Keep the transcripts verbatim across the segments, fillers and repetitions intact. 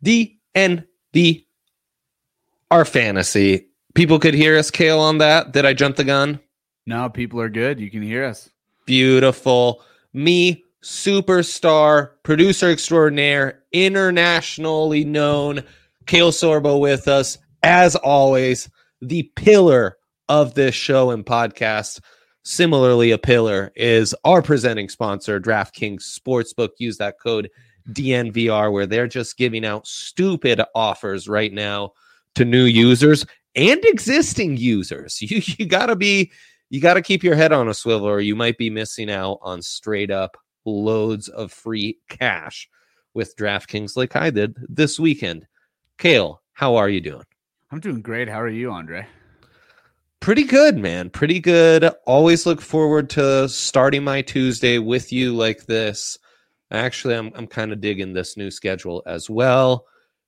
D N V R fantasy. People could hear us, Kale, on that. Did I jump the gun? No, people are good. You can hear us. Beautiful. Me, superstar, producer extraordinaire, internationally known, Kale Sorbo with us. As always, the pillar of this show and podcast. Similarly, a pillar is our presenting sponsor, DraftKings Sportsbook. Use that code D N V R, where they're just giving out stupid offers right now to new users and existing users. You, you gotta be, you gotta keep your head on a swivel, or you might be missing out on straight up loads of free cash with DraftKings, like I did this weekend. Kale, how are you doing? I'm doing great. How are you, Andre? Pretty good, man. Pretty good. Always look forward to starting my Tuesday with you like this. Actually, I'm I'm kind of digging this new schedule as well.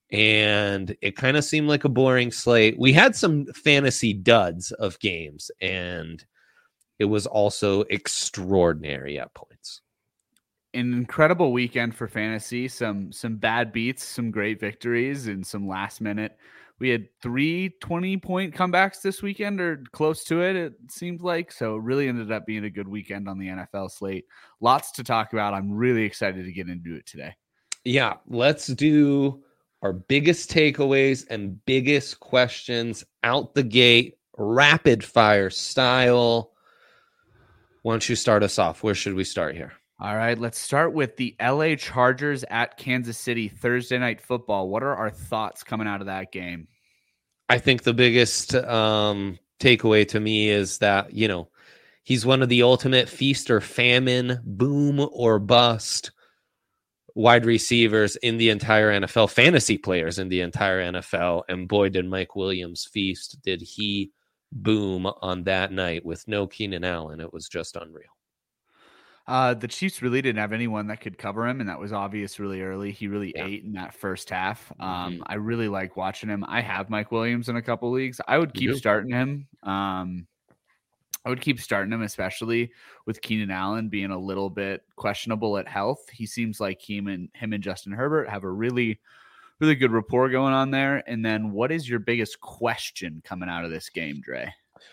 And it kind of seemed like a boring slate. We had some fantasy duds of games, and it was also extraordinary at points. An incredible weekend for fantasy. Some some bad beats, some great victories, and some last minute. We had three twenty-point comebacks this weekend, or close to it, it seemed like. So it really ended up being a good weekend on the N F L slate. Lots to talk about. I'm really excited to get into it today. Yeah, let's do our biggest takeaways and biggest questions out the gate, rapid fire style. Why don't you start us off? Where should we start here? All right, let's start with the L A Chargers at Kansas City Thursday Night Football. What are our thoughts coming out of that game? I think the biggest um, takeaway to me is that, you know, he's one of the ultimate feast or famine, boom or bust wide receivers in the entire N F L, fantasy players in the entire N F L. And boy, did Mike Williams feast. Did he boom on that night with no Keenan Allen. It was just unreal. Uh, the Chiefs really didn't have anyone that could cover him, and that was obvious really early. He really Yeah. ate in that first half. Um, Mm-hmm. I really like watching him. I have Mike Williams in a couple leagues. I would keep You do? starting him. Um, I would keep starting him, especially with Keenan Allen being a little bit questionable at health. He seems like him and him and Justin Herbert have a really, really good rapport going on there. And then, what is your biggest question coming out of this game, Dre?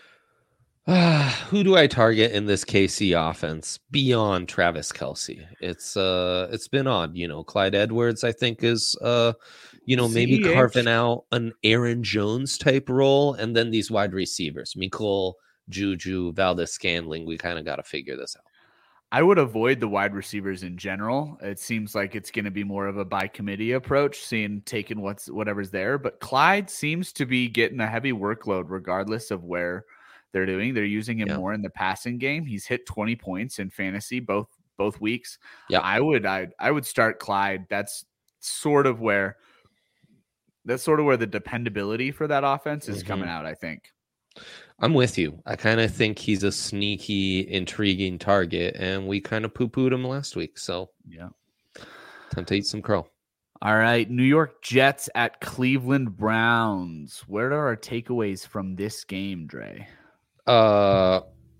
Who do I target in this K C offense beyond Travis Kelce? It's uh, it's been odd, you know. Clyde Edwards, I think, is uh, you know, maybe C H carving out an Aaron Jones type role, and then these wide receivers, Mecole, Juju, Valdez-Scantling. We kind of got to figure this out. I would avoid the wide receivers in general. It seems like it's going to be more of a by committee approach, seeing taking what's whatever's there. But Clyde seems to be getting a heavy workload, regardless of where they're doing. They're using him Yeah. more in the passing game. He's hit twenty points in fantasy both both weeks. Yeah, I would I I would start Clyde. That's sort of where that's sort of where the dependability for that offense is mm-hmm. coming out, I think. I'm with you. I kind of think he's a sneaky, intriguing target, and we kind of poo-pooed him last week. So yeah, time to eat some crow. All right, New York Jets at Cleveland Browns. Where are our takeaways from this game, Dre? Uh,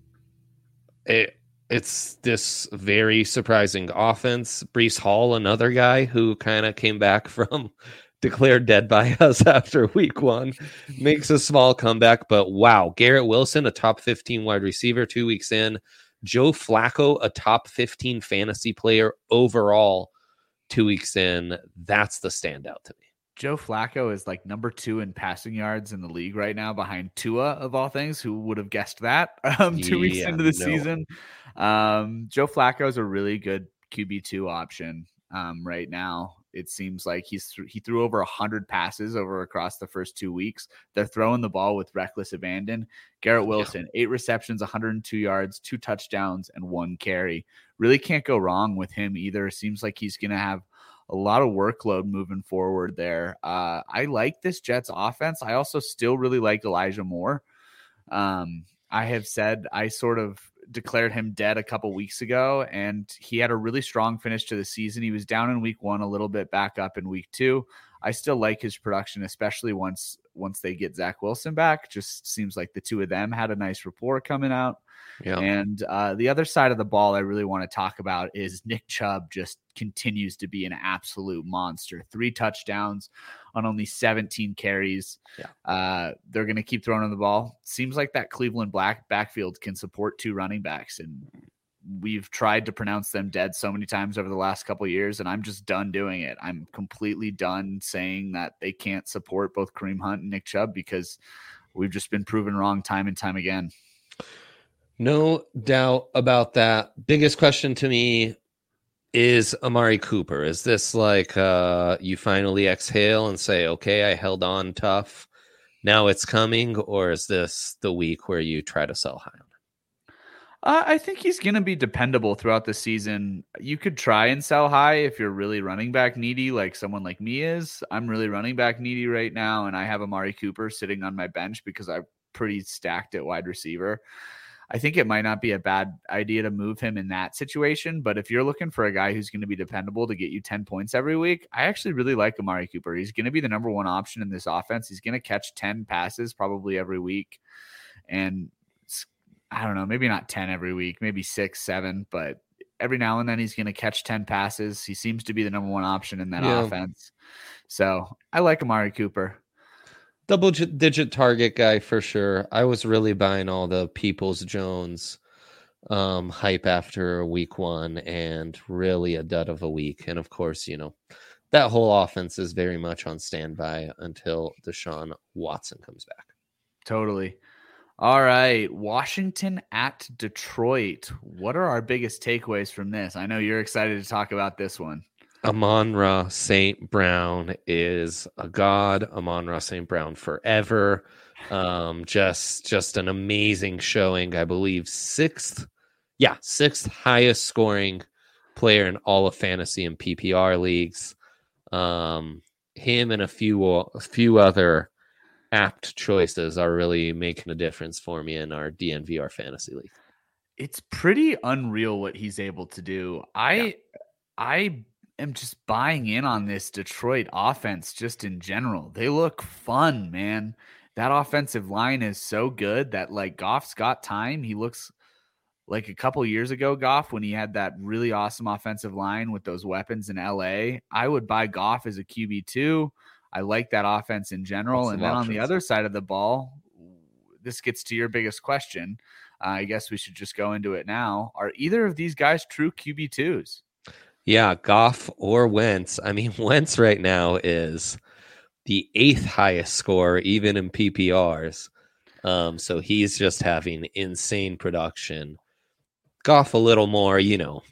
it it's this very surprising offense. Breece Hall, another guy who kind of came back from declared dead by us after week one, makes a small comeback. But wow, Garrett Wilson, a top fifteen wide receiver two weeks in. Joe Flacco, a top fifteen fantasy player overall two weeks in. That's the standout to me. Joe Flacco is like number two in passing yards in the league right now, behind Tua, of all things. Who would have guessed that um, two weeks Yeah, into the no. season? Um, Joe Flacco is a really good Q B two option um, right now. It seems like he's th- he threw over one hundred passes over across the first two weeks. They're throwing the ball with reckless abandon. Garrett Wilson, yeah. eight receptions, one hundred two yards, two touchdowns, and one carry. Really can't go wrong with him either. Seems like he's going to have a lot of workload moving forward there. Uh, I like this Jets offense. I also still really like Elijah Moore. Um, I have said I sort of declared him dead a couple weeks ago, and he had a really strong finish to the season. He was down in week one, a little bit back up in week two. I still like his production, especially once once they get Zach Wilson back. Just seems like the two of them had a nice rapport coming out. Yeah. And uh, the other side of the ball I really want to talk about is Nick Chubb just continues to be an absolute monster. Three touchdowns on only seventeen carries. Yeah. Uh, they're going to keep throwing on the ball. Seems like that Cleveland black backfield can support two running backs, and we've tried to pronounce them dead so many times over the last couple of years, and I'm just done doing it. I'm completely done saying that they can't support both Kareem Hunt and Nick Chubb because we've just been proven wrong time and time again. No doubt about that. Biggest question to me is Amari Cooper. Is this like uh, you finally exhale and say, okay, I held on tough, now it's coming? Or is this the week where you try to sell high on it? Uh, I think he's going to be dependable throughout the season. You could try and sell high if you're really running back needy, like someone like me is. I'm really running back needy right now, and I have Amari Cooper sitting on my bench because I'm pretty stacked at wide receiver. I think it might not be a bad idea to move him in that situation, but if you're looking for a guy who's going to be dependable to get you ten points every week, I actually really like Amari Cooper. He's going to be the number one option in this offense. He's going to catch ten passes probably every week. And I don't know, maybe not ten every week, maybe six, seven, but every now and then he's going to catch ten passes. He seems to be the number one option in that yeah. offense. So I like Amari Cooper. Double digit target guy for sure. I was really buying all the Peoples Jones um, hype after week one, and really a dud of a week. And of course, you know, that whole offense is very much on standby until Deshaun Watson comes back. Totally. All right. Washington at Detroit. What are our biggest takeaways from this? I know you're excited to talk about this one. Amon-Ra Saint Brown is a god. Amon-Ra Saint Brown forever. Um, just, just an amazing showing. I believe sixth, yeah, sixth highest scoring player in all of fantasy and P P R leagues. Um, him and a few, a few other apt choices are really making a difference for me in our D N V R fantasy league. It's pretty unreal what he's able to do. I, yeah. I. am just buying in on this Detroit offense just in general. They look fun, man. That offensive line is so good that like Goff's got time. He looks like a couple years ago, Goff, when he had that really awesome offensive line with those weapons in L A. I would buy Goff as a Q B two. I like that offense in general. Lots and then options. On the other side of the ball, this gets to your biggest question. Uh, I guess we should just go into it now. Are either of these guys true Q B twos? Yeah, Goff or Wentz. I mean, Wentz right now is the eighth highest score, even in P P Rs. Um, so he's just having insane production. Goff a little more, you know,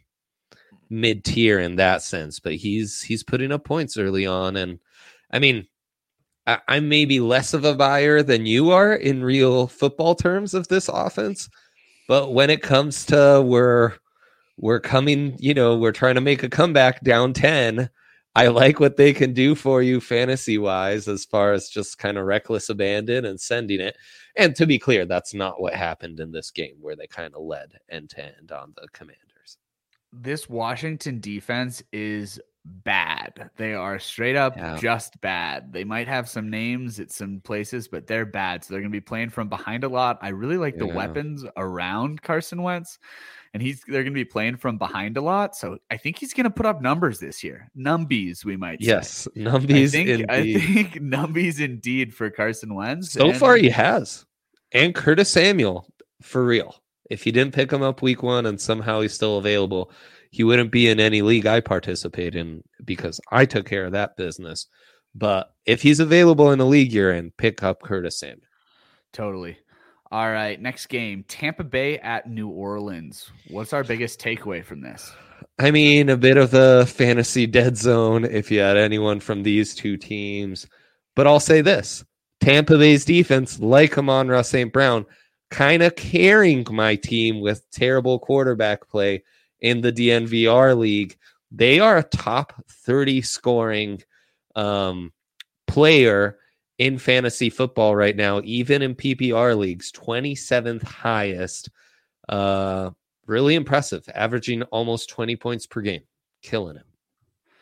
mid-tier in that sense, but he's he's putting up points early on. And I mean, I, I'm maybe less of a buyer than you are in real football terms of this offense. But when it comes to we're We're coming, you know, we're trying to make a comeback down ten. I like what they can do for you fantasy-wise as far as just kind of reckless abandon and sending it. And to be clear, that's not what happened in this game where they kind of led end-to-end on the Commanders. This Washington defense is bad. They are straight up yeah. just bad. They might have some names at some places, but they're bad. So they're going to be playing from behind a lot. I really like yeah. the weapons around Carson Wentz. And he's they're going to be playing from behind a lot. So I think he's going to put up numbers this year. Numbies, we might yes, say. Yes, numbies I think, indeed. I think numbies indeed for Carson Wentz. So and, far he has. And Curtis Samuel, for real. If you didn't pick him up week one and somehow he's still available, he wouldn't be in any league I participate in because I took care of that business. But if he's available in a league you're in, pick up Curtis Samuel. Totally. All right, next game, Tampa Bay at New Orleans. What's our biggest takeaway from this? I mean, a bit of a fantasy dead zone if you had anyone from these two teams. But I'll say this. Tampa Bay's defense, like Amon-Ra Saint Brown, kind of carrying my team with terrible quarterback play in the D N V R league. They are a top thirty scoring um, player in fantasy football right now, even in P P R leagues, twenty-seventh highest. Uh, really impressive, averaging almost twenty points per game, killing him.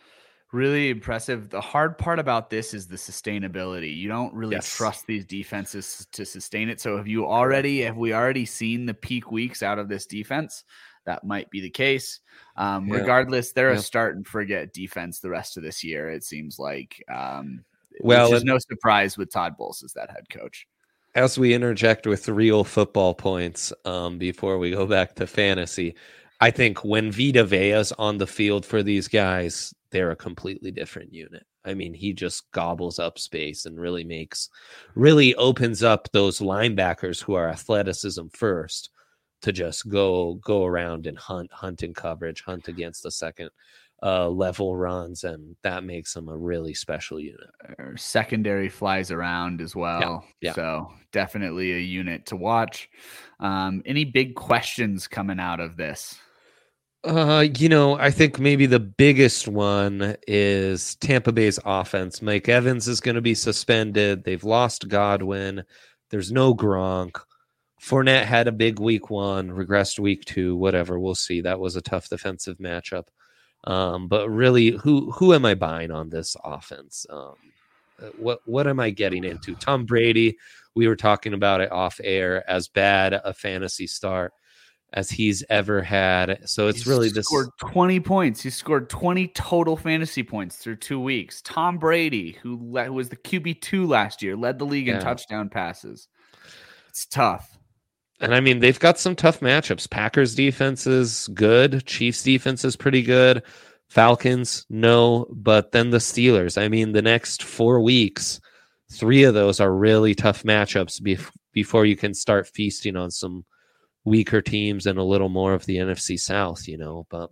Really impressive. The hard part about this is the sustainability. You don't really Yes. trust these defenses to sustain it. So have you already, have we already seen the peak weeks out of this defense? That might be the case. Um, Yeah. Regardless, they're Yeah. a start and forget defense the rest of this year, it seems like. Um, Well, which is and- no surprise with Todd Bowles as that head coach. As we interject with real football points um, before we go back to fantasy, I think when Vita Vea's on the field for these guys, they're a completely different unit. I mean, he just gobbles up space and really makes, really opens up those linebackers who are athleticism first to just go go around and hunt, hunt in coverage, hunt against the second uh, level runs, and that makes them a really special unit. Our secondary flies around as well. Yeah, yeah. So definitely a unit to watch. Um, any big questions coming out of this? Uh, you know, I think maybe the biggest one is Tampa Bay's offense. Mike Evans is going to be suspended. They've lost Godwin. There's no Gronk. Fournette had a big week one, regressed week two, whatever. We'll see. That was a tough defensive matchup. Um, but really, who who am I buying on this offense? Um, what what am I getting into? Tom Brady, we were talking about it off air, as bad a fantasy start as he's ever had. So it's He's really this scored twenty points. He scored twenty total fantasy points through two weeks. Tom Brady, who, le- who was the Q B two last year, led the league in Yeah. touchdown passes. It's tough. And I mean, they've got some tough matchups. Packers defense is good. Chiefs defense is pretty good. Falcons, no. But then the Steelers. I mean, the next four weeks, three of those are really tough matchups bef- before you can start feasting on some weaker teams and a little more of the N F C South, you know. But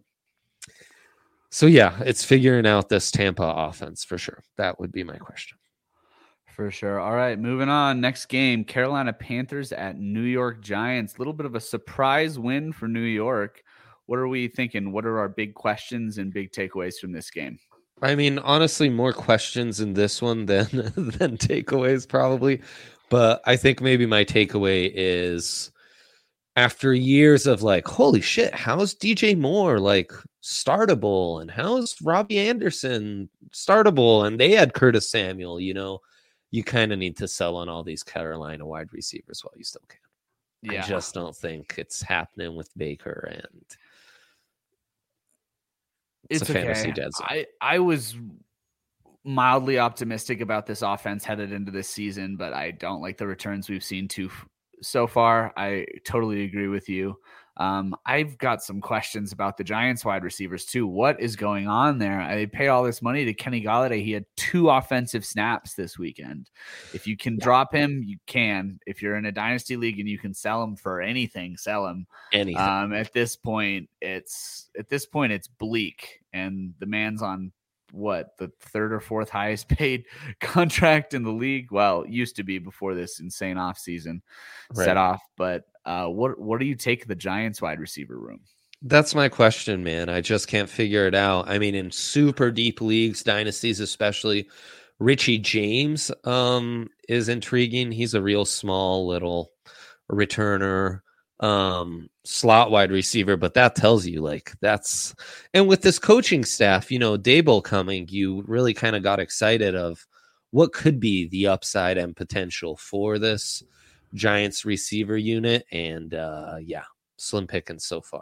so, yeah, it's figuring out this Tampa offense for sure. That would be my question. For sure. All right, moving on. Next game, Carolina Panthers at New York Giants. A little bit of a surprise win for New York. What are we thinking? What are our big questions and big takeaways from this game? I mean, honestly, more questions in this one than than takeaways probably. But I think maybe my takeaway is after years of like, holy shit, how's D J Moore like startable? And how's Robbie Anderson startable? And they had Curtis Samuel, you know, you kind of need to sell on all these Carolina wide receivers while you still can. Yeah. I just don't think it's happening with Baker, and it's, It's a fantasy okay. dead zone. I, I was mildly optimistic about this offense headed into this season, but I don't like the returns we've seen too so far. I totally agree with you. Um, I've got some questions about the Giants wide receivers too. What is going on there? I pay all this money to Kenny Golladay. He had two offensive snaps this weekend. If you can yeah. drop him, you can. If you're in a dynasty league and you can sell him for anything, sell him. Anything. Um, at this point, it's at this point it's bleak, and the man's on what, the third or fourth highest paid contract in the league. Well, it used to be before this insane offseason right. set off. But uh, what what do you take the Giants wide receiver room? That's my question, man. I just can't figure it out. I mean, in super deep leagues, dynasties especially, Richie James um, is intriguing. He's a real small little returner, um, slot wide receiver, but that tells you like that's, and with this coaching staff, you know, Daboll coming, you really kind of got excited of what could be the upside and potential for this Giants receiver unit. And uh, yeah, slim pickings so far.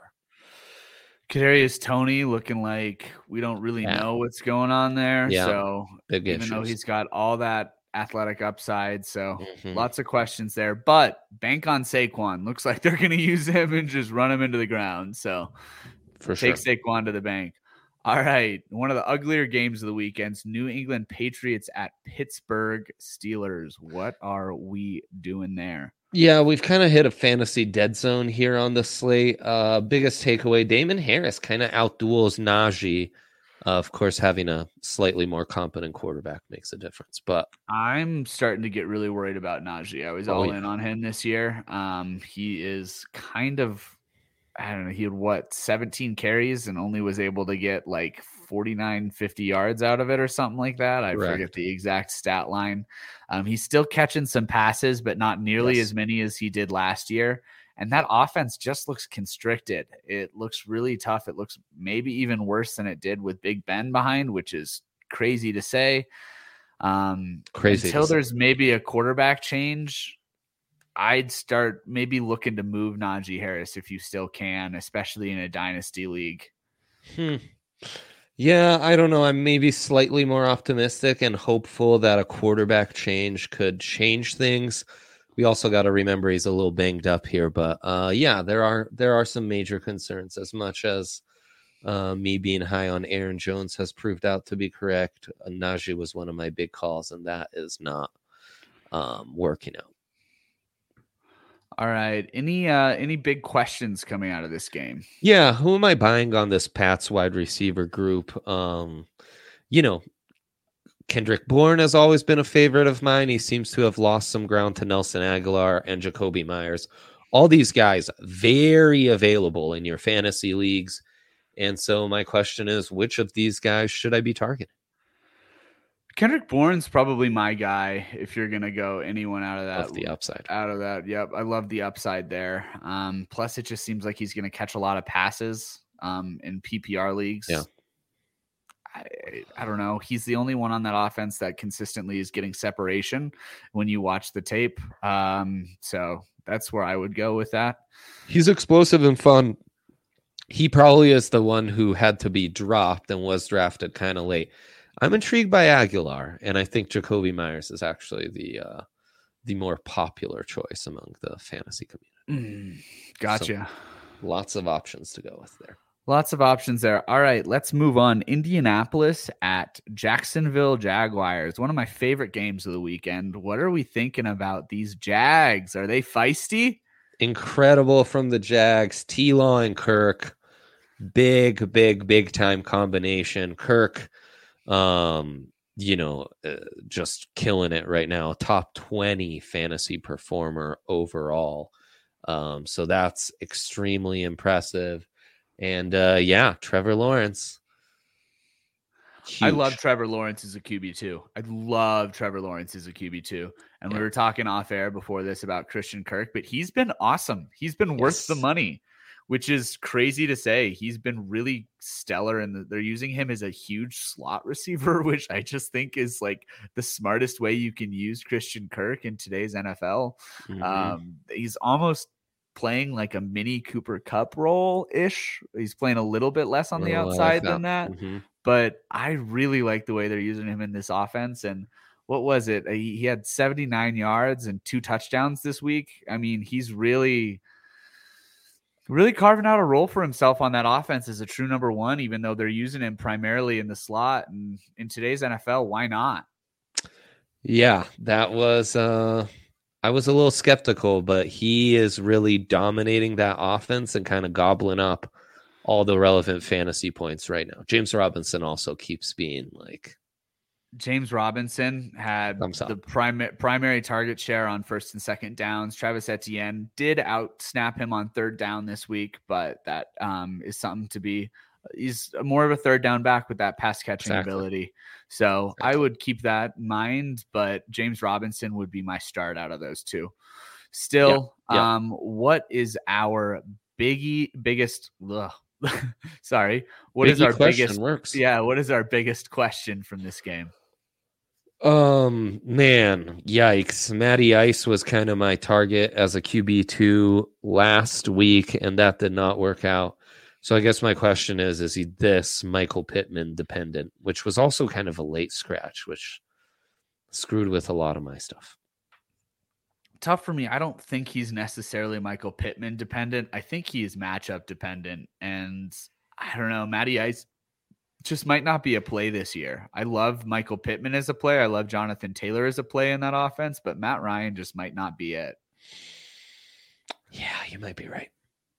Kadarius Toney looking like we don't really yeah. know what's going on there. Yeah. So Big even issues. though he's got all that athletic upside, so mm-hmm. lots of questions there. But bank on Saquon. Looks like they're going to use him and just run him into the ground. So for take sure. Saquon to the bank. All right, one of the uglier games of the weekends: New England Patriots at Pittsburgh Steelers. What are we doing there? Yeah, we've kind of hit a fantasy dead zone here on the slate. Uh, biggest takeaway, Damon Harris kind of outduels Najee. Uh, of course, having a slightly more competent quarterback makes a difference. But I'm starting to get really worried about Najee. I was oh, all yeah. in on him this year. Um, he is kind of, I don't know, he had what, seventeen carries and only was able to get like forty-nine, fifty yards out of it or something like that. I Correct. forget the exact stat line. Um, he's still catching some passes, but not nearly yes. as many as he did last year. And that offense just looks constricted. It looks really tough. It looks maybe even worse than it did with Big Ben behind, which is crazy to say. Um, Crazy until to say. there's maybe a quarterback change, I'd start maybe looking to move Najee Harris if you still can, especially in a dynasty league. Hmm. Yeah, I don't know. I'm maybe slightly more optimistic and hopeful that a quarterback change could change things. We also got to remember he's a little banged up here, but uh, yeah, there are there are some major concerns. As much as uh, me being high on Aaron Jones has proved out to be correct, uh, Najee was one of my big calls, and that is not um, working out. All right. Any uh, any big questions coming out of this game? Yeah, who am I buying on this Pats wide receiver group? Um, you know, Kendrick Bourne has always been a favorite of mine. He seems to have lost some ground to Nelson Aguilar and Jacoby Myers. All these guys very available in your fantasy leagues. And so my question is, which of these guys should I be targeting? Kendrick Bourne's probably my guy if you're gonna go anyone out of that. Of the upside. Out of that, yep. I love the upside there. Um, plus, it just seems like he's gonna catch a lot of passes um, in P P R leagues. Yeah. I, I don't know. He's the only one on that offense that consistently is getting separation when you watch the tape. Um, so that's where I would go with that. He's explosive and fun. He probably is the one who had to be dropped and was drafted kind of late. I'm intrigued by Aguilar, and I think Jacoby Myers is actually the uh, the more popular choice among the fantasy community. Mm, gotcha. So, lots of options to go with there. Lots of options there. All right, let's move on. Indianapolis at Jacksonville Jaguars. One of my favorite games of the weekend. What are we thinking about these Jags? Are they feisty? Incredible from the Jags. T-Law and Kirk. Big, big, big time combination. Kirk, um, you know, uh, just killing it right now. Top twenty fantasy performer overall. Um, so that's extremely impressive. And uh, yeah, Trevor Lawrence. Huge. I love Trevor Lawrence as a Q B two. I love Trevor Lawrence as a Q B two. And yeah. we were talking off air before this about Christian Kirk, but he's been awesome. He's been yes. worth the money, which is crazy to say. He's been really stellar, and they're using him as a huge slot receiver, which I just think is like the smartest way you can use Christian Kirk in today's N F L. Mm-hmm. Um, he's almost playing like a mini Cooper Kupp role ish. He's playing a little bit less on the outside like that. than that, mm-hmm. but I really like the way they're using him in this offense. And what was it? He, he had seventy-nine yards and two touchdowns this week. I mean, he's really, really carving out a role for himself on that offense as a true number one, even though they're using him primarily in the slot. And in today's N F L, why not? Yeah, that was, uh, I was a little skeptical, but he is really dominating that offense and kind of gobbling up all the relevant fantasy points right now. James Robinson also keeps being like. James Robinson had the primary primary target share on first and second downs. Travis Etienne did out snap him on third down this week, but that um, is something to be. He's more of a third down back with that pass catching exactly. ability. So exactly. I would keep that in mind, but James Robinson would be my start out of those two. Still, yeah. Yeah. um, what is our biggie biggest? Ugh, sorry, what Biggie is our biggest? Works. Yeah, what is our biggest question from this game? Um, man, yikes. Matty Ice was kind of my target as a Q B two last week, and that did not work out. So I guess my question is, is he this Michael Pittman dependent, which was also kind of a late scratch, which screwed with a lot of my stuff. Tough for me. I don't think he's necessarily Michael Pittman dependent. I think he is matchup dependent. And I don't know, Matty Ice just might not be a play this year. I love Michael Pittman as a play. I love Jonathan Taylor as a play in that offense, but Matt Ryan just might not be it. Yeah, you might be right.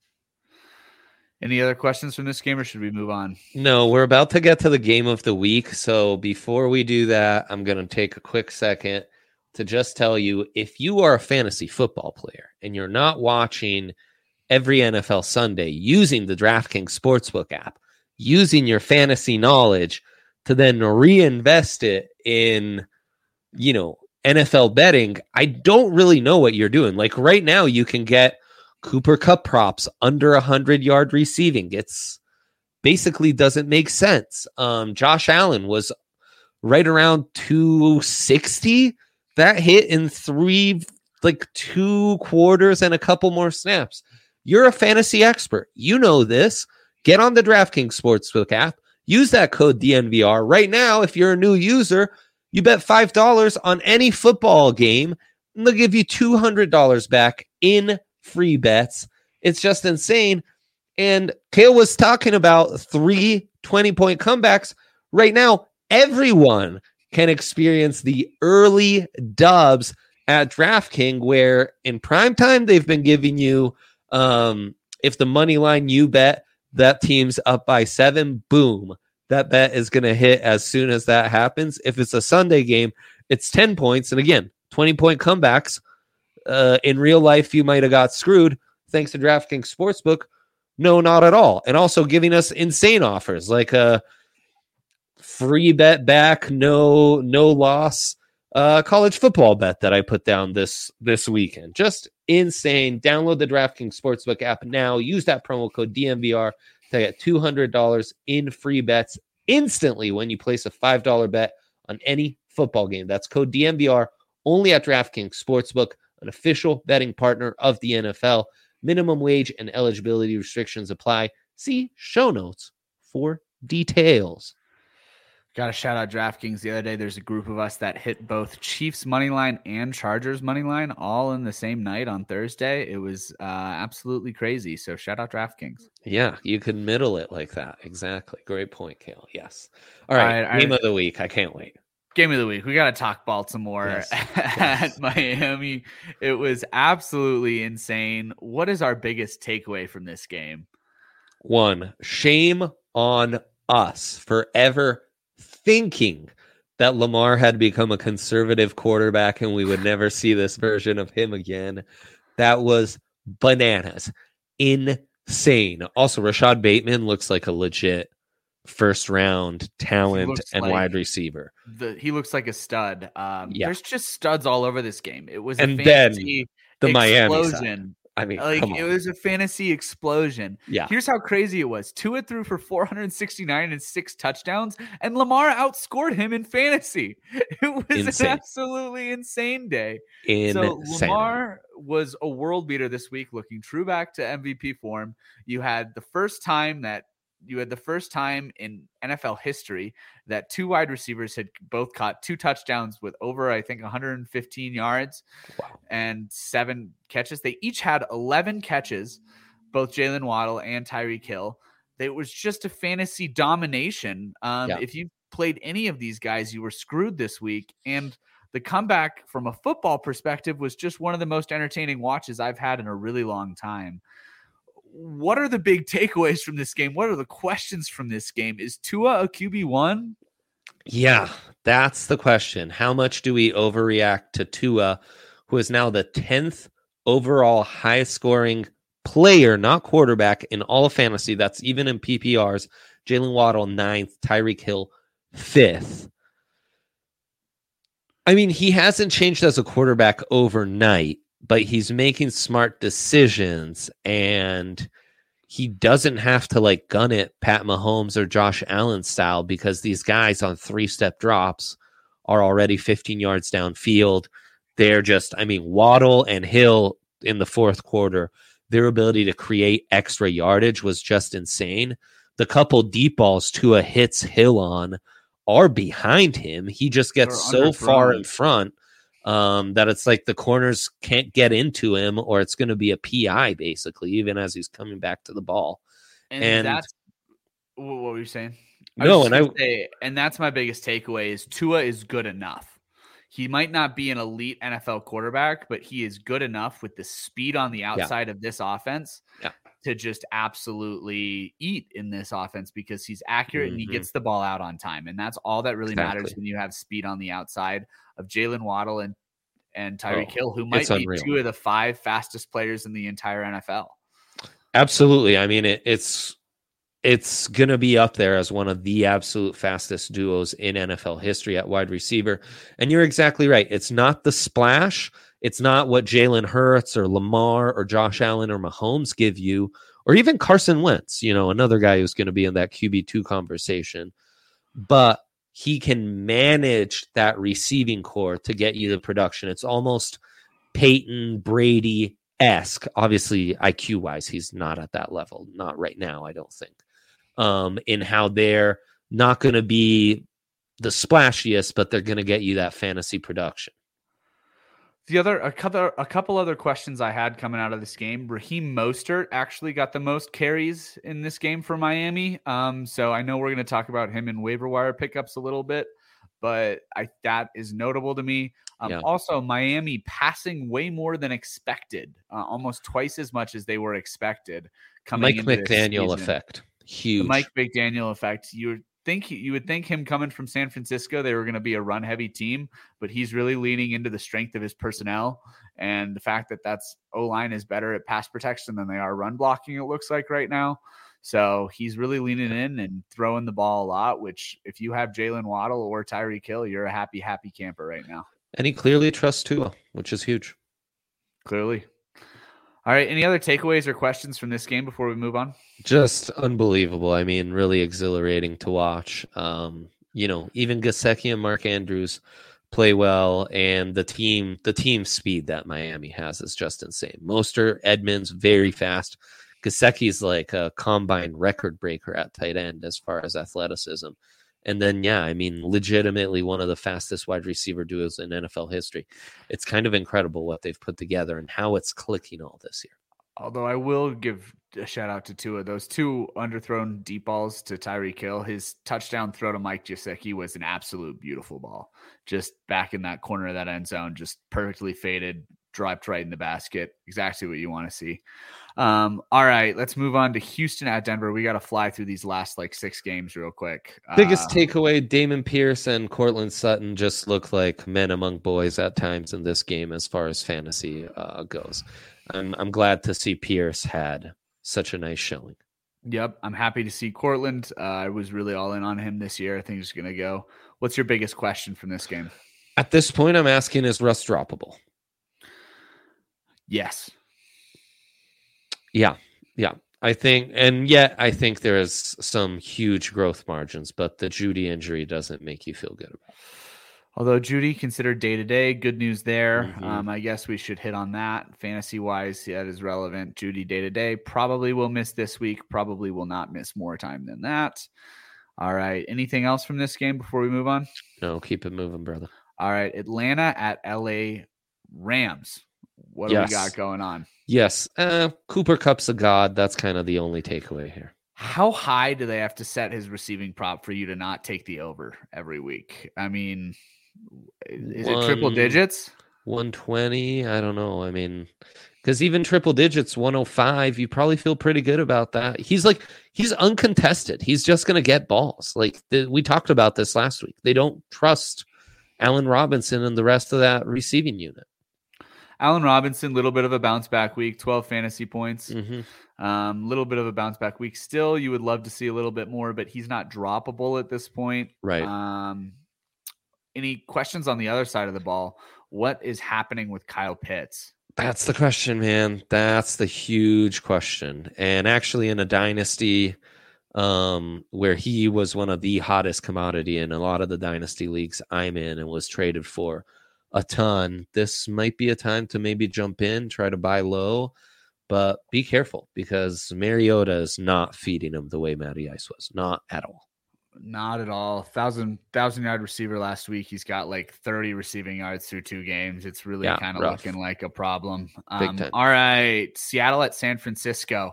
Any other questions from this game, or should we move on? No, we're about to get to the game of the week. So before we do that, I'm going to take a quick second to just tell you, if you are a fantasy football player and you're not watching every N F L Sunday using the DraftKings Sportsbook app, using your fantasy knowledge to then reinvest it in, you know, N F L betting, I don't really know what you're doing. Like right now, you can get Cooper Kupp props under one hundred yard receiving. It's basically doesn't make sense. Um, Josh Allen was right around two sixty. That hit in three, like two quarters and a couple more snaps. You're a fantasy expert. You know this. Get on the DraftKings Sportsbook app. Use that code D N V R. Right now, if you're a new user, you bet five dollars on any football game, and they'll give you two hundred dollars back in free bets. It's just insane. And Kale was talking about three twenty-point comebacks. Right now, everyone can experience the early dubs at DraftKings, where in prime time, they've been giving you, um, if the money line you bet, that team's up by seven, boom. That bet is going to hit as soon as that happens. If it's a Sunday game, it's ten points. And again, twenty-point comebacks. Uh, in real life, you might have got screwed thanks to DraftKings Sportsbook. No, not at all. And also giving us insane offers like a free bet back, no no loss uh, college football bet that I put down this this weekend. Just insane. Download the DraftKings Sportsbook app now. Use that promo code D M V R to get two hundred dollars in free bets instantly when you place a five dollar bet on any football game. That's code D M V R only at DraftKings Sportsbook, an official betting partner of the N F L. Minimum wage and eligibility restrictions apply. See show notes for details. Got to shout out DraftKings. The other day, there's a group of us that hit both Chiefs money line and Chargers money line all in the same night on Thursday. It was uh, absolutely crazy. So shout out DraftKings. Yeah, you could middle it like that. Exactly. Great point, Kale. Yes. All right. All right game I, of the week. I can't wait. Game of the week. We got to talk Baltimore yes. at yes. Miami. It was absolutely insane. What is our biggest takeaway from this game? One, shame on us for ever thinking that Lamar had become a conservative quarterback and we would never see this version of him again. That was bananas. Insane. Also, Rashad Bateman looks like a legit first round talent and like wide receiver. The, he looks like a stud. Um, yeah. There's just studs all over this game. It was and a fantasy then the explosion. Miami side. I mean, like it was a fantasy explosion. Yeah. Here's how crazy it was. Tua threw for four hundred sixty-nine and six touchdowns, and Lamar outscored him in fantasy. It was insane. An absolutely insane day. Insane. So Lamar was a world beater this week, looking true back to M V P form. You had the first time that You had the first time in N F L history that two wide receivers had both caught two touchdowns with over, I think, one hundred fifteen yards wow. and seven catches. They each had eleven catches, both Jalen Waddle and Tyreek Hill. It was just a fantasy domination. Um, yeah. If you played any of these guys, you were screwed this week. And the comeback from a football perspective was just one of the most entertaining watches I've had in a really long time. What are the big takeaways from this game? What are the questions from this game? Is Tua a Q B one? Yeah, that's the question. How much do we overreact to Tua, who is now the tenth overall highest scoring player, not quarterback, in all of fantasy? That's even in P P Rs. Jalen Waddle, ninth. Tyreek Hill, fifth. I mean, he hasn't changed as a quarterback overnight, but he's making smart decisions, and he doesn't have to like gun it Pat Mahomes or Josh Allen style, because these guys on three-step drops are already fifteen yards downfield. They're just, I mean, Waddle and Hill in the fourth quarter, their ability to create extra yardage was just insane. The couple deep balls Tua hits Hill on are behind him. He just gets so far in front Um, that it's like the corners can't get into him, or it's going to be a P I basically, even as he's coming back to the ball. And, and that's what were you saying? I no, and I say, and that's my biggest takeaway is Tua is good enough. He might not be an elite N F L quarterback, but he is good enough with the speed on the outside yeah. of this offense yeah. to just absolutely eat in this offense, because he's accurate mm-hmm. and he gets the ball out on time. And that's all that really exactly. matters when you have speed on the outside of Jalen Waddle and, and Tyreek oh, Hill, who might be unreal. two of the five fastest players in the entire N F L. Absolutely. I mean, it, it's it's going to be up there as one of the absolute fastest duos in N F L history at wide receiver. And you're exactly right. It's not the splash. It's not what Jalen Hurts or Lamar or Josh Allen or Mahomes give you, or even Carson Wentz, you know, another guy who's going to be in that Q B two conversation. But he can manage that receiving core to get you the production. It's almost Peyton Brady-esque. Obviously, I Q-wise, he's not at that level. Not right now, I don't think. Um, in how they're not going to be the splashiest, but they're going to get you that fantasy production. The other, a couple, a couple other questions I had coming out of this game. Raheem Mostert actually got the most carries in this game for Miami. Um, so I know we're going to talk about him in waiver wire pickups a little bit, but I that is notable to me. Um, yeah. Also, Miami passing way more than expected, uh, almost twice as much as they were expected. Coming Mike McDaniel effect, huge. The Mike McDaniel effect. You think you would think him coming from San Francisco, they were going to be a run heavy team, but he's really leaning into the strength of his personnel and the fact that that's O-line is better at pass protection than they are run blocking. It looks like right now. So he's really leaning in and throwing the ball a lot, which if you have Jalen Waddle or Tyreek Hill, you're a happy, happy camper right now. And he clearly trusts Tua, which is huge. Clearly. All right. Any other takeaways or questions from this game before we move on? Just unbelievable. I mean, really exhilarating to watch. Um, you know, even Gesicki and Mark Andrews play well, and the team, the team speed that Miami has is just insane. Mostert, Edmonds, very fast. Gesicki's like a combine record breaker at tight end as far as athleticism. And then, yeah, I mean, legitimately one of the fastest wide receiver duos in N F L history. It's kind of incredible what they've put together and how it's clicking all this year. Although I will give a shout out to Tua. Those two underthrown deep balls to Tyreek Hill, his touchdown throw to Mike Gesicki was an absolute beautiful ball. Just back in that corner of that end zone, just perfectly faded, dropped right in the basket. Exactly what you want to see. Um, all right, let's move on to Houston at Denver. We got to fly through these last like six games real quick. Biggest uh, takeaway, Damon Pierce and Cortland Sutton just look like men among boys at times in this game as far as fantasy uh, goes. I'm, I'm glad to see Pierce had such a nice showing. Yep, I'm happy to see Cortland. Uh, I was really all in on him this year. I think he's going to go. What's your biggest question from this game? At this point, I'm asking, is Russ droppable? Yes. Yeah, yeah. I think, and yet I think there is some huge growth margins, but the Jeudy injury doesn't make you feel good about it. Although Jeudy considered day-to-day, good news there. Mm-hmm. Um, I guess we should hit on that. Fantasy-wise, yeah, that is relevant. Jeudy day-to-day probably will miss this week, probably will not miss more time than that. All right. Anything else from this game before we move on? No, keep it moving, brother. All right. Atlanta at L A Rams. What yes. do we got going on? Yes. Uh, Cooper Kupp's a god. That's kind of the only takeaway here. How high do they have to set his receiving prop for you to not take the over every week? I mean, is One, it triple digits? one twenty. I don't know. I mean, because even triple digits, one oh five, you probably feel pretty good about that. He's like, he's uncontested. He's just going to get balls. Like the, we talked about this last week. They don't trust Allen Robinson and the rest of that receiving unit. Allen Robinson, little bit of a bounce back week, twelve fantasy points. Mm-hmm. Um, little bit of a bounce back week. Still, you would love to see a little bit more, but he's not droppable at this point. Right. Um, any questions on the other side of the ball? What is happening with Kyle Pitts? That's the question, man. That's the huge question. And actually in a dynasty um, where he was one of the hottest commodity in a lot of the dynasty leagues I'm in and was traded for a ton, this might be a time to maybe jump in, try to buy low, but be careful because Mariota is not feeding him the way Matty Ice was. Not at all. Not at all. Thousand thousand yard receiver last week. He's got like thirty receiving yards through two games. It's really yeah, kind of looking like a problem. Um, all right. Seattle at San Francisco.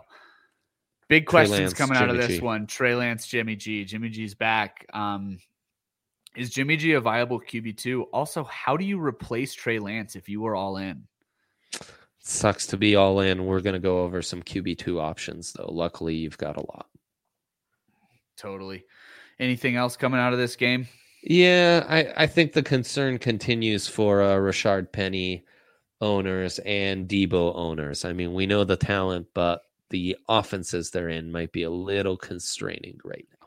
Big questions Lance, coming out Jimmy of this G. one. Trey Lance, Jimmy G. Jimmy G's back. Um, is Jimmy G a viable Q B two? Also, how do you replace Trey Lance if you were all in? Sucks to be all in. We're going to go over some Q B two options, though. Luckily, you've got a lot. Totally. Anything else coming out of this game? Yeah, I, I think the concern continues for uh, Rashard Penny owners and Debo owners. I mean, we know the talent, but the offenses they're in might be a little constraining right now.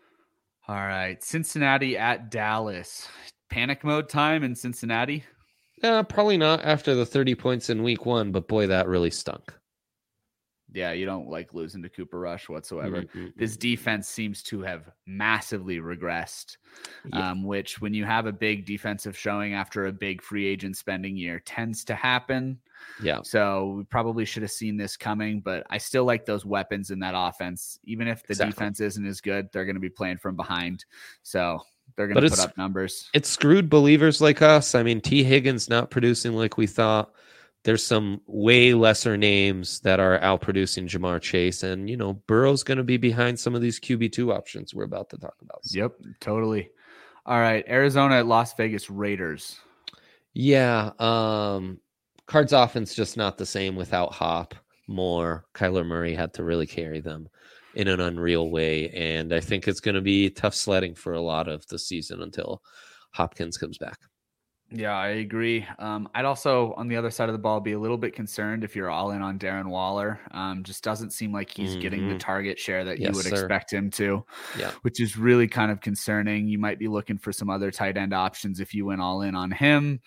All right. Cincinnati at Dallas. Panic mode time in Cincinnati? Uh, probably not after the thirty points in week one, but boy, that really stunk. Yeah, you don't like losing to Cooper Rush whatsoever. Mm-hmm. This defense seems to have massively regressed, yeah. um, which when you have a big defensive showing after a big free agent spending year tends to happen. Yeah. So we probably should have seen this coming, but I still like those weapons in that offense. Even if the exactly. defense isn't as good, they're going to be playing from behind. So they're going to put up numbers. It screwed believers like us. I mean, T. Higgins not producing like we thought. There's some way lesser names that are outproducing Jamar Chase. And, you know, Burrow's going to be behind some of these Q B two options we're about to talk about. So. Yep, totally. All right, Arizona at Las Vegas Raiders. Yeah, um, Cards offense just not the same without Hop. Moore, Kyler Murray had to really carry them in an unreal way. And I think it's going to be tough sledding for a lot of the season until Hopkins comes back. Yeah, I agree. Um, I'd also, on the other side of the ball, be a little bit concerned if you're all in on Darren Waller. Um, just doesn't seem like he's mm-hmm. getting the target share that yes, you would sir. expect him to, yeah. which is really kind of concerning. You might be looking for some other tight end options if you went all in on him.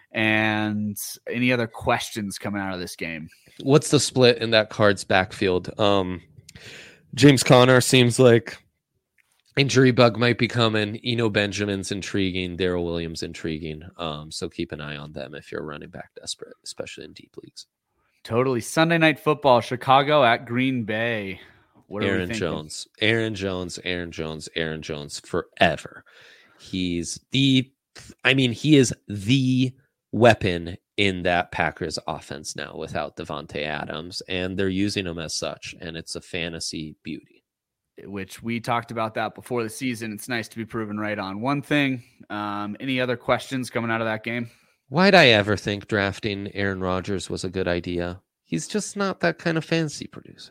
And any other questions coming out of this game? What's the split in that Cards backfield? Um, James Conner seems like injury bug might be coming. Eno Benjamin's intriguing. Darrell Williams intriguing. Um, so keep an eye on them if you're running back desperate, especially in deep leagues. Totally. Sunday Night Football, Chicago at Green Bay. What are Aaron we thinking? Jones, Aaron Jones, Aaron Jones, Aaron Jones forever. He's the, I mean, he is the weapon in that Packers offense now without Devontae Adams, and they're using him as such, and it's a fantasy beauty. Which we talked about that before the season. It's nice to be proven right on one thing. Um, any other questions coming out of that game? Why'd I ever think drafting Aaron Rodgers was a good idea? He's just not that kind of fantasy producer.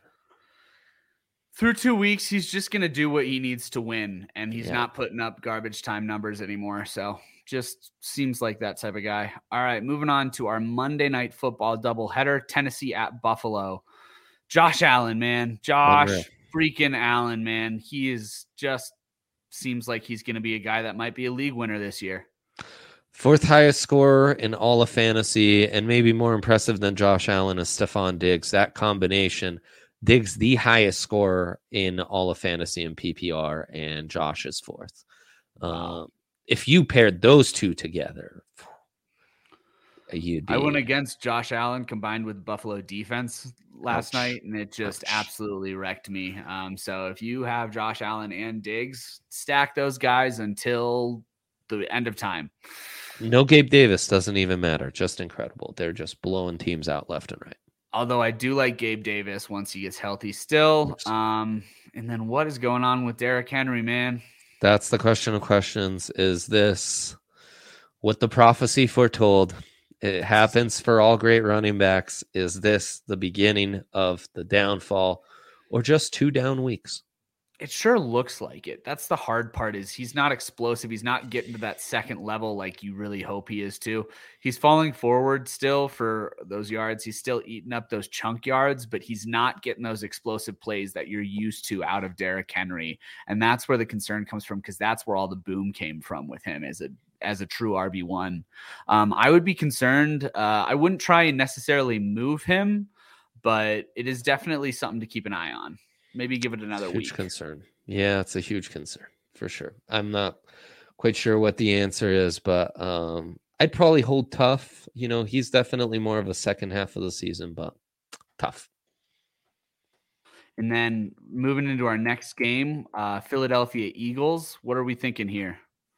Through two weeks, he's just going to do what he needs to win, and he's Yeah. not putting up garbage time numbers anymore. So just seems like that type of guy. All right, moving on to our Monday Night Football doubleheader, Tennessee at Buffalo. Josh Allen, man. Josh Unreal. freaking Allen, man. He is just seems like he's going to be a guy that might be a league winner this year. Fourth highest scorer in all of fantasy, and maybe more impressive than Josh Allen is Stephon Diggs. That combination, Diggs the highest scorer in all of fantasy in P P R, and Josh is fourth. Um, if you paired those two together, you'd be... I went against Josh Allen combined with Buffalo defense last Ouch. night, and it just Ouch. absolutely wrecked me. Um, so if you have Josh Allen and Diggs, stack those guys until the end of time. No Gabe Davis doesn't even matter. Just incredible. They're just blowing teams out left and right. Although I do like Gabe Davis once he gets healthy still. Um, and then what is going on with Derrick Henry, man? That's the question of questions. Is this what the prophecy foretold? It happens for all great running backs. Is this the beginning of the downfall or just two down weeks? It sure looks like it. That's the hard part is he's not explosive. He's not getting to that second level like you really hope he is too. He's falling forward still for those yards. He's still eating up those chunk yards, but he's not getting those explosive plays that you're used to out of Derrick Henry. And that's where the concern comes from because that's where all the boom came from with him as a as a true R B one. Um, I would be concerned. Uh, I wouldn't try and necessarily move him, but it is definitely something to keep an eye on. Maybe give it another huge week. Huge concern. Yeah, it's a huge concern for sure. I'm not quite sure what the answer is, but um, I'd probably hold tough. You know, he's definitely more of a second half of the season, but tough. And then moving into our next game, uh, Philadelphia Eagles. What are we thinking here?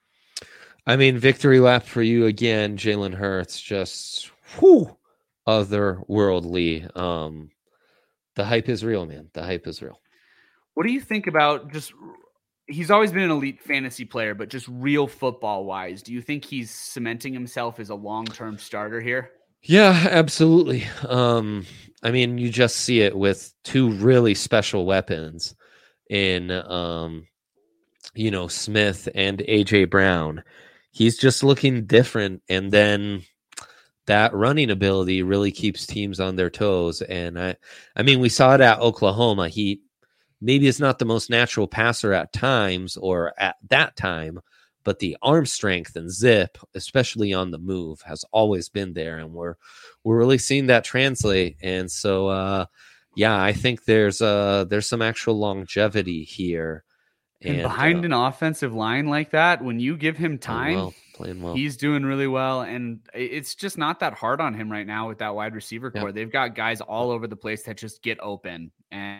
I mean, victory lap for you again, Jalen Hurts. Just whew, otherworldly. Um, the hype is real, man. The hype is real. What do you think about just he's always been an elite fantasy player, but just real football wise, do you think he's cementing himself as a long-term starter here? Yeah, absolutely. Um, I mean, you just see it with two really special weapons in, um, you know, Smith and A J Brown. He's just looking different. And then that running ability really keeps teams on their toes. And I, I mean, we saw it at Oklahoma. He maybe is not the most natural passer at times or at that time, but the arm strength and zip, especially on the move, has always been there, and we're we're really seeing that translate. And so, uh, yeah, I think there's uh there's some actual longevity here. And, And behind uh, an offensive line like that, when you give him playing time, well, playing well. he's doing really well. And it's just not that hard on him right now with that wide receiver core. Yep. They've got guys all over the place that just get open. And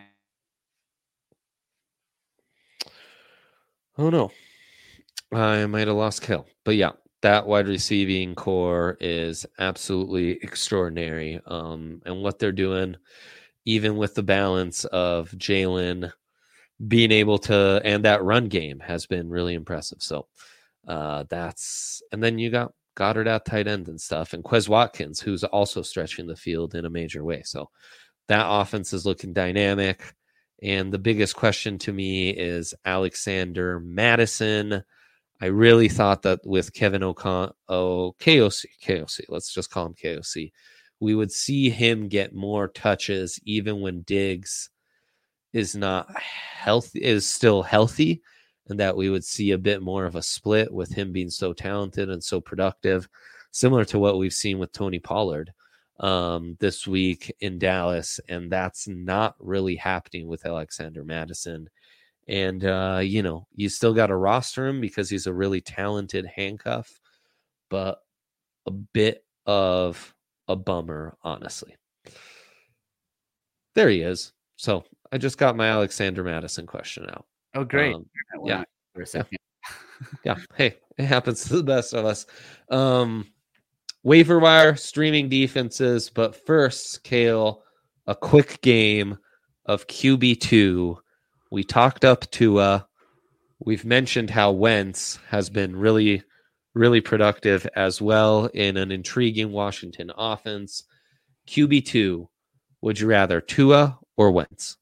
oh no, I might have lost Kill, but yeah, that wide receiving core is absolutely extraordinary. Um, and what they're doing, even with the balance of Jalen being able to, and that run game has been really impressive. So uh, that's, and then you got Goddard at tight end and stuff, and Quez Watkins, who's also stretching the field in a major way. So that offense is looking dynamic. And the biggest question to me is Alexander Madison. I really thought that with Kevin O'Con, oh, K O C, K O C, let's just call him K O C, we would see him get more touches even when Diggs is not healthy, is still healthy, and that we would see a bit more of a split with him being so talented and so productive, similar to what we've seen with Tony Pollard um, this week in Dallas. And that's not really happening with Alexander Madison. And, uh, you know, you still got to roster him because he's a really talented handcuff, but a bit of a bummer, honestly. There he is. So I just got my Alexander Madison question out. oh, great. Um, Well, yeah. For a second. Yeah. Hey, it happens to the best of us. Um, waiver wire, streaming defenses. But first, Kale, a quick game of Q B two. We talked up Tua. We've mentioned how Wentz has been really, really productive as well in an intriguing Washington offense. Q B two, would you rather Tua or Wentz?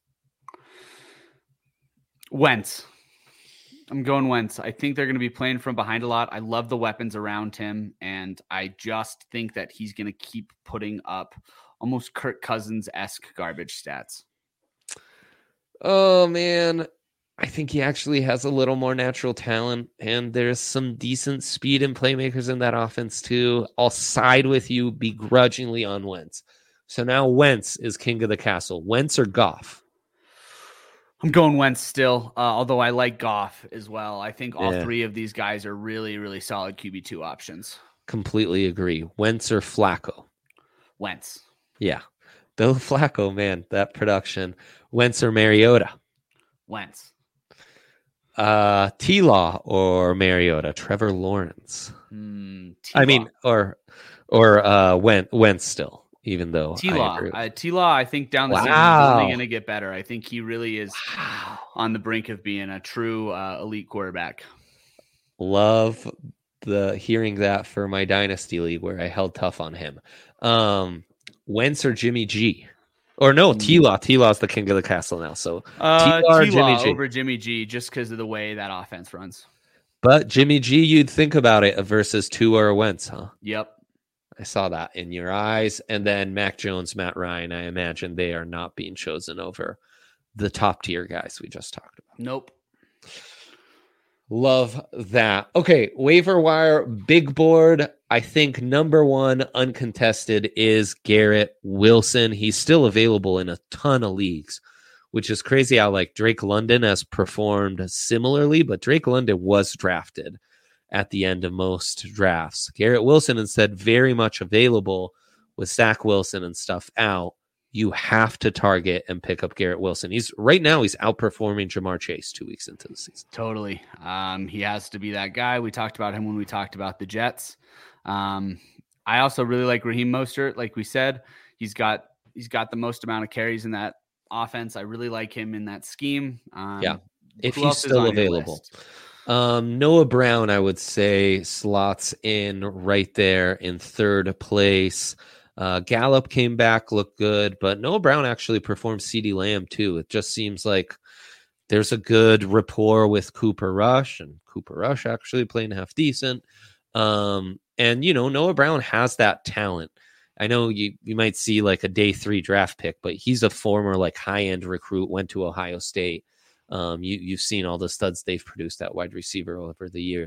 Wentz. I'm going Wentz. I think they're going to be playing from behind a lot. I love the weapons around him, and I just think that he's going to keep putting up almost Kirk Cousins-esque garbage stats. Oh, man. I think he actually has a little more natural talent, and there's some decent speed and playmakers in that offense, too. I'll side with you begrudgingly on Wentz. So now Wentz is king of the castle. Wentz or Goff? I'm going Wentz still, uh, although I like Goff as well. I think all Yeah. three of these guys are really, really solid Q B two options. Completely agree. Wentz or Flacco? Wentz. Yeah. Though Flacco, man, that production. Wentz or Mariota? Wentz. Uh, T-Law or Mariota? Trevor Lawrence. Mm, I mean, or or uh, Wentz, Wentz still, even though T-Law. I agree. Uh, T-Law, I think down the season is Wow. only going to get better. I think he really is Wow. on the brink of being a true uh, elite quarterback. Love the hearing that for my dynasty league where I held tough on him. Um, Wentz or Jimmy G? Or no, T-Law. T-Law's the king of the castle now. So Uh, T-Law or T-Law Jimmy G? over Jimmy G just because of the way that offense runs. But Jimmy G, you'd think about it versus Tua or Wentz, huh? Yep. I saw that in your eyes. And then Mac Jones, Matt Ryan, I imagine they are not being chosen over the top tier guys we just talked about. Nope. Love that. Okay, waiver wire, big board. I think number one uncontested is Garrett Wilson. He's still available in a ton of leagues, which is crazy how like Drake London has performed similarly, but Drake London was drafted at the end of most drafts. Garrett Wilson instead very much available with Zach Wilson and stuff out. You have to target and pick up Garrett Wilson. He's right now he's outperforming Jamar Chase two weeks into the season. Totally. Um, he has to be that guy. We talked about him when we talked about the Jets. Um, I also really like Raheem Mostert. Like we said, he's got he's got the most amount of carries in that offense. I really like him in that scheme. Um, Yeah, if who he's else is still on your available. list? Um, Noah Brown, I would say, slots in right there in third place. Uh, Gallup came back, looked good, but Noah Brown actually performed CeeDee Lamb too. It just seems like there's a good rapport with Cooper Rush, and Cooper Rush actually playing half decent. Um, and, you know, Noah Brown has that talent. I know you, you might see like a day three draft pick, but he's a former like high-end recruit, went to Ohio State. Um, you, you've seen all the studs they've produced at wide receiver over the years.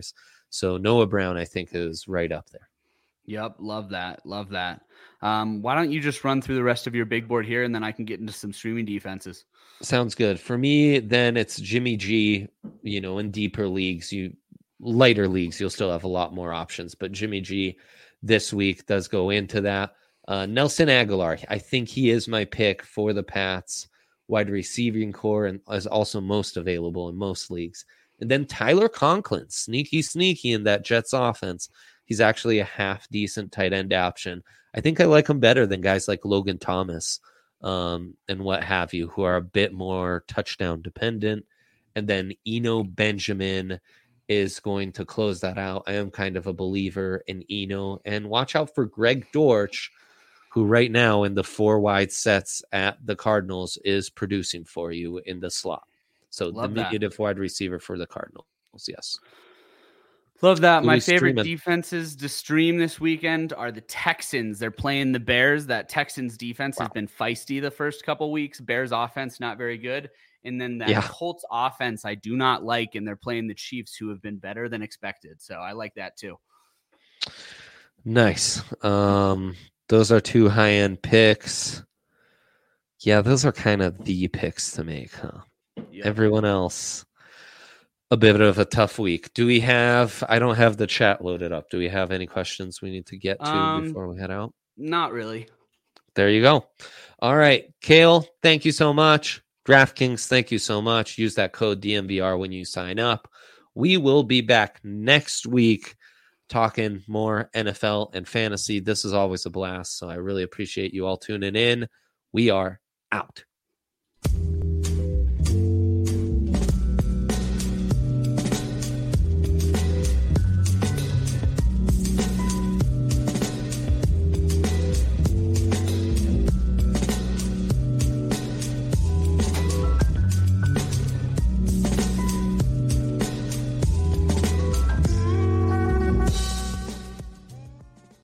So Noah Brown, I think, is right up there. Yep. Love that. Love that. Um, why don't you just run through the rest of your big board here, and then I can get into some streaming defenses. Sounds good. For me, then it's Jimmy G. You know, in deeper leagues, you lighter leagues, you'll still have a lot more options. But Jimmy G this week does go into that. Uh, Nelson Aguilar, I think he is my pick for the Pats wide receiving core and is also most available in most leagues. And then Tyler Conklin, sneaky, sneaky in that Jets offense. He's actually a half decent tight end option. I think I like him better than guys like Logan Thomas um, and what have you, who are a bit more touchdown dependent. And then Eno Benjamin is going to close that out. I am kind of a believer in Eno. And watch out for Greg Dortch, who right now in the four wide sets at the Cardinals is producing for you in the slot. So Love diminutive that. wide receiver for the Cardinals. Yes. Love that. Who My we favorite streaming? defenses to stream this weekend are the Texans. They're playing the Bears. That Texans defense Wow. has been feisty the first couple weeks. Bears offense, not very good. And then that Yeah. Colts offense, I do not like. And they're playing the Chiefs, who have been better than expected. So I like that too. Nice. Um, those are two high-end picks. Yeah, those are kind of the picks to make, huh? Yep. Everyone else, a bit of a tough week. Do we have, I don't have the chat loaded up. Do we have any questions we need to get to Um, before we head out? Not really. There you go. All right. Kale, thank you so much. DraftKings, thank you so much. Use that code D M V R when you sign up. We will be back next week talking more N F L and fantasy. This is always a blast, so I really appreciate you all tuning in. We are out.